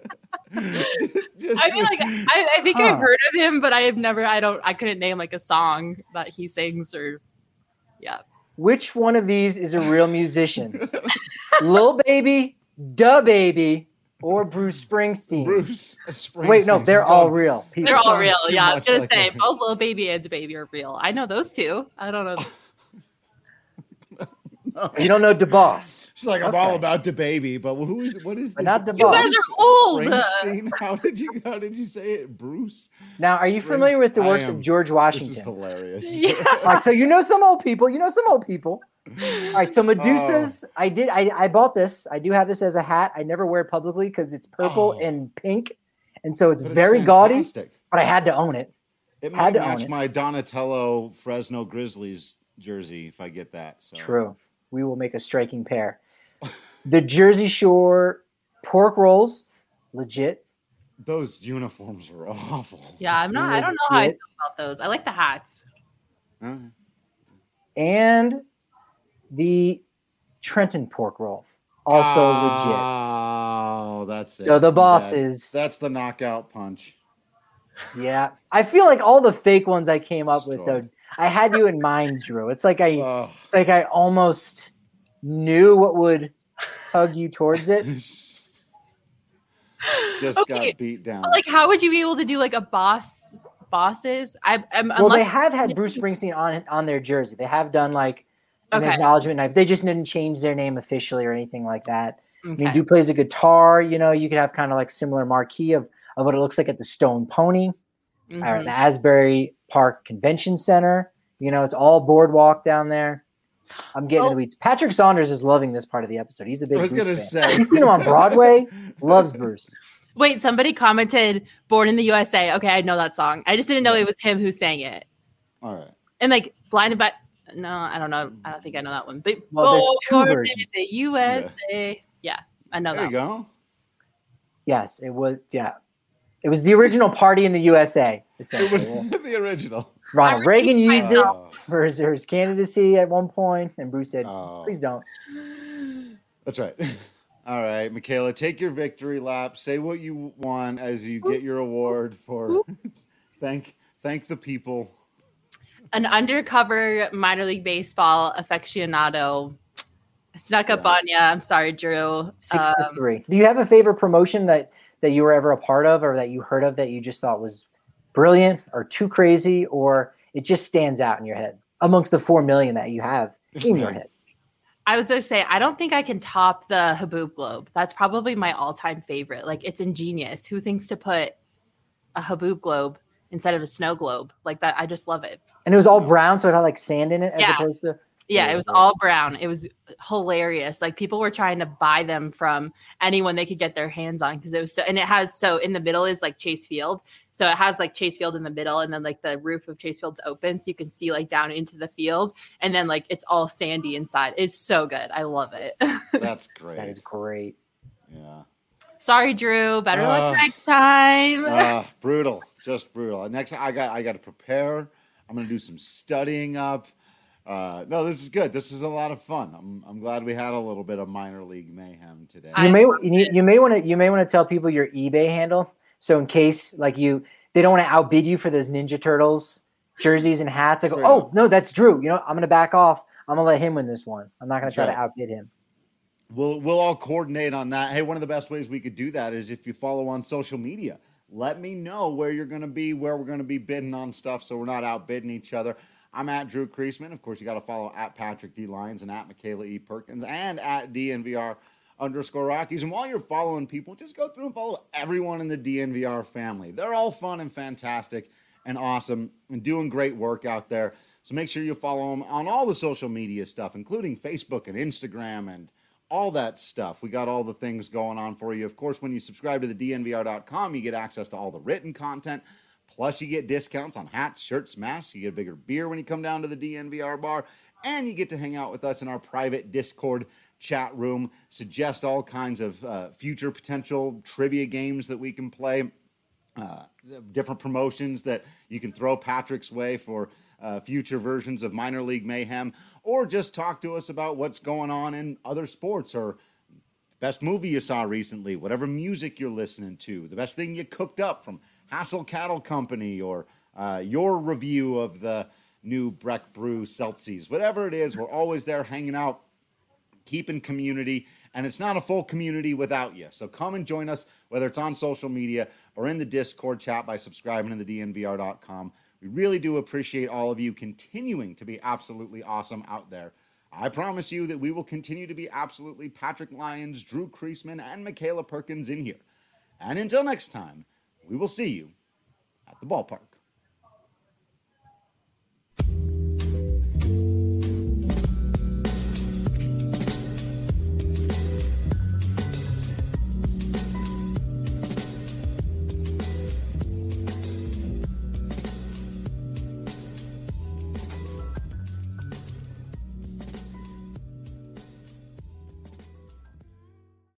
I think I've heard of him, but I couldn't name like a song that he sings or. Yeah. Which one of these is a real musician? Lil Baby, Da Baby, or Bruce Springsteen? Bruce Springsteen. Wait, no, they're all real. They're all real. Yeah, I was gonna say both Lil Baby and Da Baby are real. I know those two. I don't know. You don't know DeBoss. She's like, I'm all about DaBaby, but what is this? Not DeBoss. You guys are old. Springsteen? How did you say it? Bruce? Now, are you familiar with the works of George Washington? This is hilarious. Yeah. All right, so you know some old people. All right, so Medusas, I bought this. I do have this as a hat. I never wear it publicly because it's purple and pink, and so it's very gaudy. But I had to own it. It might match my Donatello Fresno Grizzlies jersey if I get that. So. True. We will make a striking pair. The Jersey Shore pork rolls, legit. those uniforms were awful. Yeah, I don't know how I feel about those. I like the hats. And the Trenton pork roll, also legit. Oh, that's it. So the bosses. That's the knockout punch. Yeah, I feel like all the fake ones I came up with, though, I had you in mind, Drew. It's like I almost knew what would tug you towards it. Just got beat down. Like, how would you be able to do like a bosses? Well, they have had Bruce Springsteen on their jersey. They have done like an acknowledgement knife. They just didn't change their name officially or anything like that. Okay. I mean, Duke plays a guitar. You know, you could have kind of like similar marquee of what it looks like at the Stone Pony or the Asbury Park Convention Center. You know, it's all boardwalk down there. I'm getting in the weeds. Patrick Saunders is loving this part of the episode. He's a big Bruce fan. He's seen him on Broadway. Loves Bruce. Wait, somebody commented "Born in the USA." Okay, I know that song. I just didn't know it was him who sang it. All right. And like "Blinded by," no, I don't know. I don't think I know that one. But there's two versions. The USA. Yeah, I know there that. There you go. Yes, it was. Yeah, it was the original "Party in the USA." It was the original. Ronald Reagan used it for his candidacy at one point, and Bruce said, "Please don't." That's right. All right, Michaela, take your victory lap. Say what you want as you get your award for thank the people. An undercover minor league baseball aficionado. I snuck up on you. I'm sorry, Drew. 6-3. Do you have a favorite promotion that you were ever a part of, or that you heard of that you just thought was brilliant or too crazy, or it just stands out in your head amongst the 4 million that you have in your head? I was going to say, I don't think I can top the Haboob Globe. That's probably my all-time favorite. Like, it's ingenious. Who thinks to put a Haboob Globe instead of a snow globe like that? I just love it. And it was all brown, so it had like sand in it as opposed to... Yeah, it was all brown. It was hilarious. Like, people were trying to buy them from anyone they could get their hands on because it was so. And it has in the middle is like Chase Field, so it has like Chase Field in the middle, and then like the roof of Chase Field's open, so you can see like down into the field, and then like it's all sandy inside. It's so good. I love it. That's great. That is great. Yeah. Sorry, Drew. Better luck next time. Brutal, just brutal. Next, I got to prepare. I'm gonna do some studying up. No, this is good. This is a lot of fun. I'm glad we had a little bit of minor league mayhem today. You may want to tell people your eBay handle, so in case they don't want to outbid you for those Ninja Turtles jerseys and hats. Like, no, that's Drew. You know, I'm gonna back off. I'm gonna let him win this one. I'm not gonna try to outbid him. We'll all coordinate on that. Hey, one of the best ways we could do that is if you follow on social media. Let me know where you're gonna be, where we're gonna be bidding on stuff, so we're not outbidding each other. I'm at Drew Creasman. Of course, you got to follow at Patrick D. Lyons and at Michaela E. Perkins and at DNVR_Rockies. And while you're following people, just go through and follow everyone in the DNVR family. They're all fun and fantastic and awesome and doing great work out there. So make sure you follow them on all the social media stuff, including Facebook and Instagram and all that stuff. We got all the things going on for you. Of course, when you subscribe to the DNVR.com, you get access to all the written content. Plus, you get discounts on hats, shirts, masks. You get a bigger beer when you come down to the DNVR bar. And you get to hang out with us in our private Discord chat room. Suggest all kinds of future potential trivia games that we can play. Different promotions that you can throw Patrick's way for future versions of Minor League Mayhem. Or just talk to us about what's going on in other sports or best movie you saw recently, whatever music you're listening to, the best thing you cooked up from Hassel Cattle Company, or your review of the new Breck Brew Celsius. Whatever it is, we're always there hanging out, keeping community, and it's not a full community without you. So come and join us, whether it's on social media or in the Discord chat by subscribing to the DNVR.com. We really do appreciate all of you continuing to be absolutely awesome out there. I promise you that we will continue to be absolutely Patrick Lyons, Drew Creasman, and Michaela Perkins in here. And until next time, we will see you at the ballpark.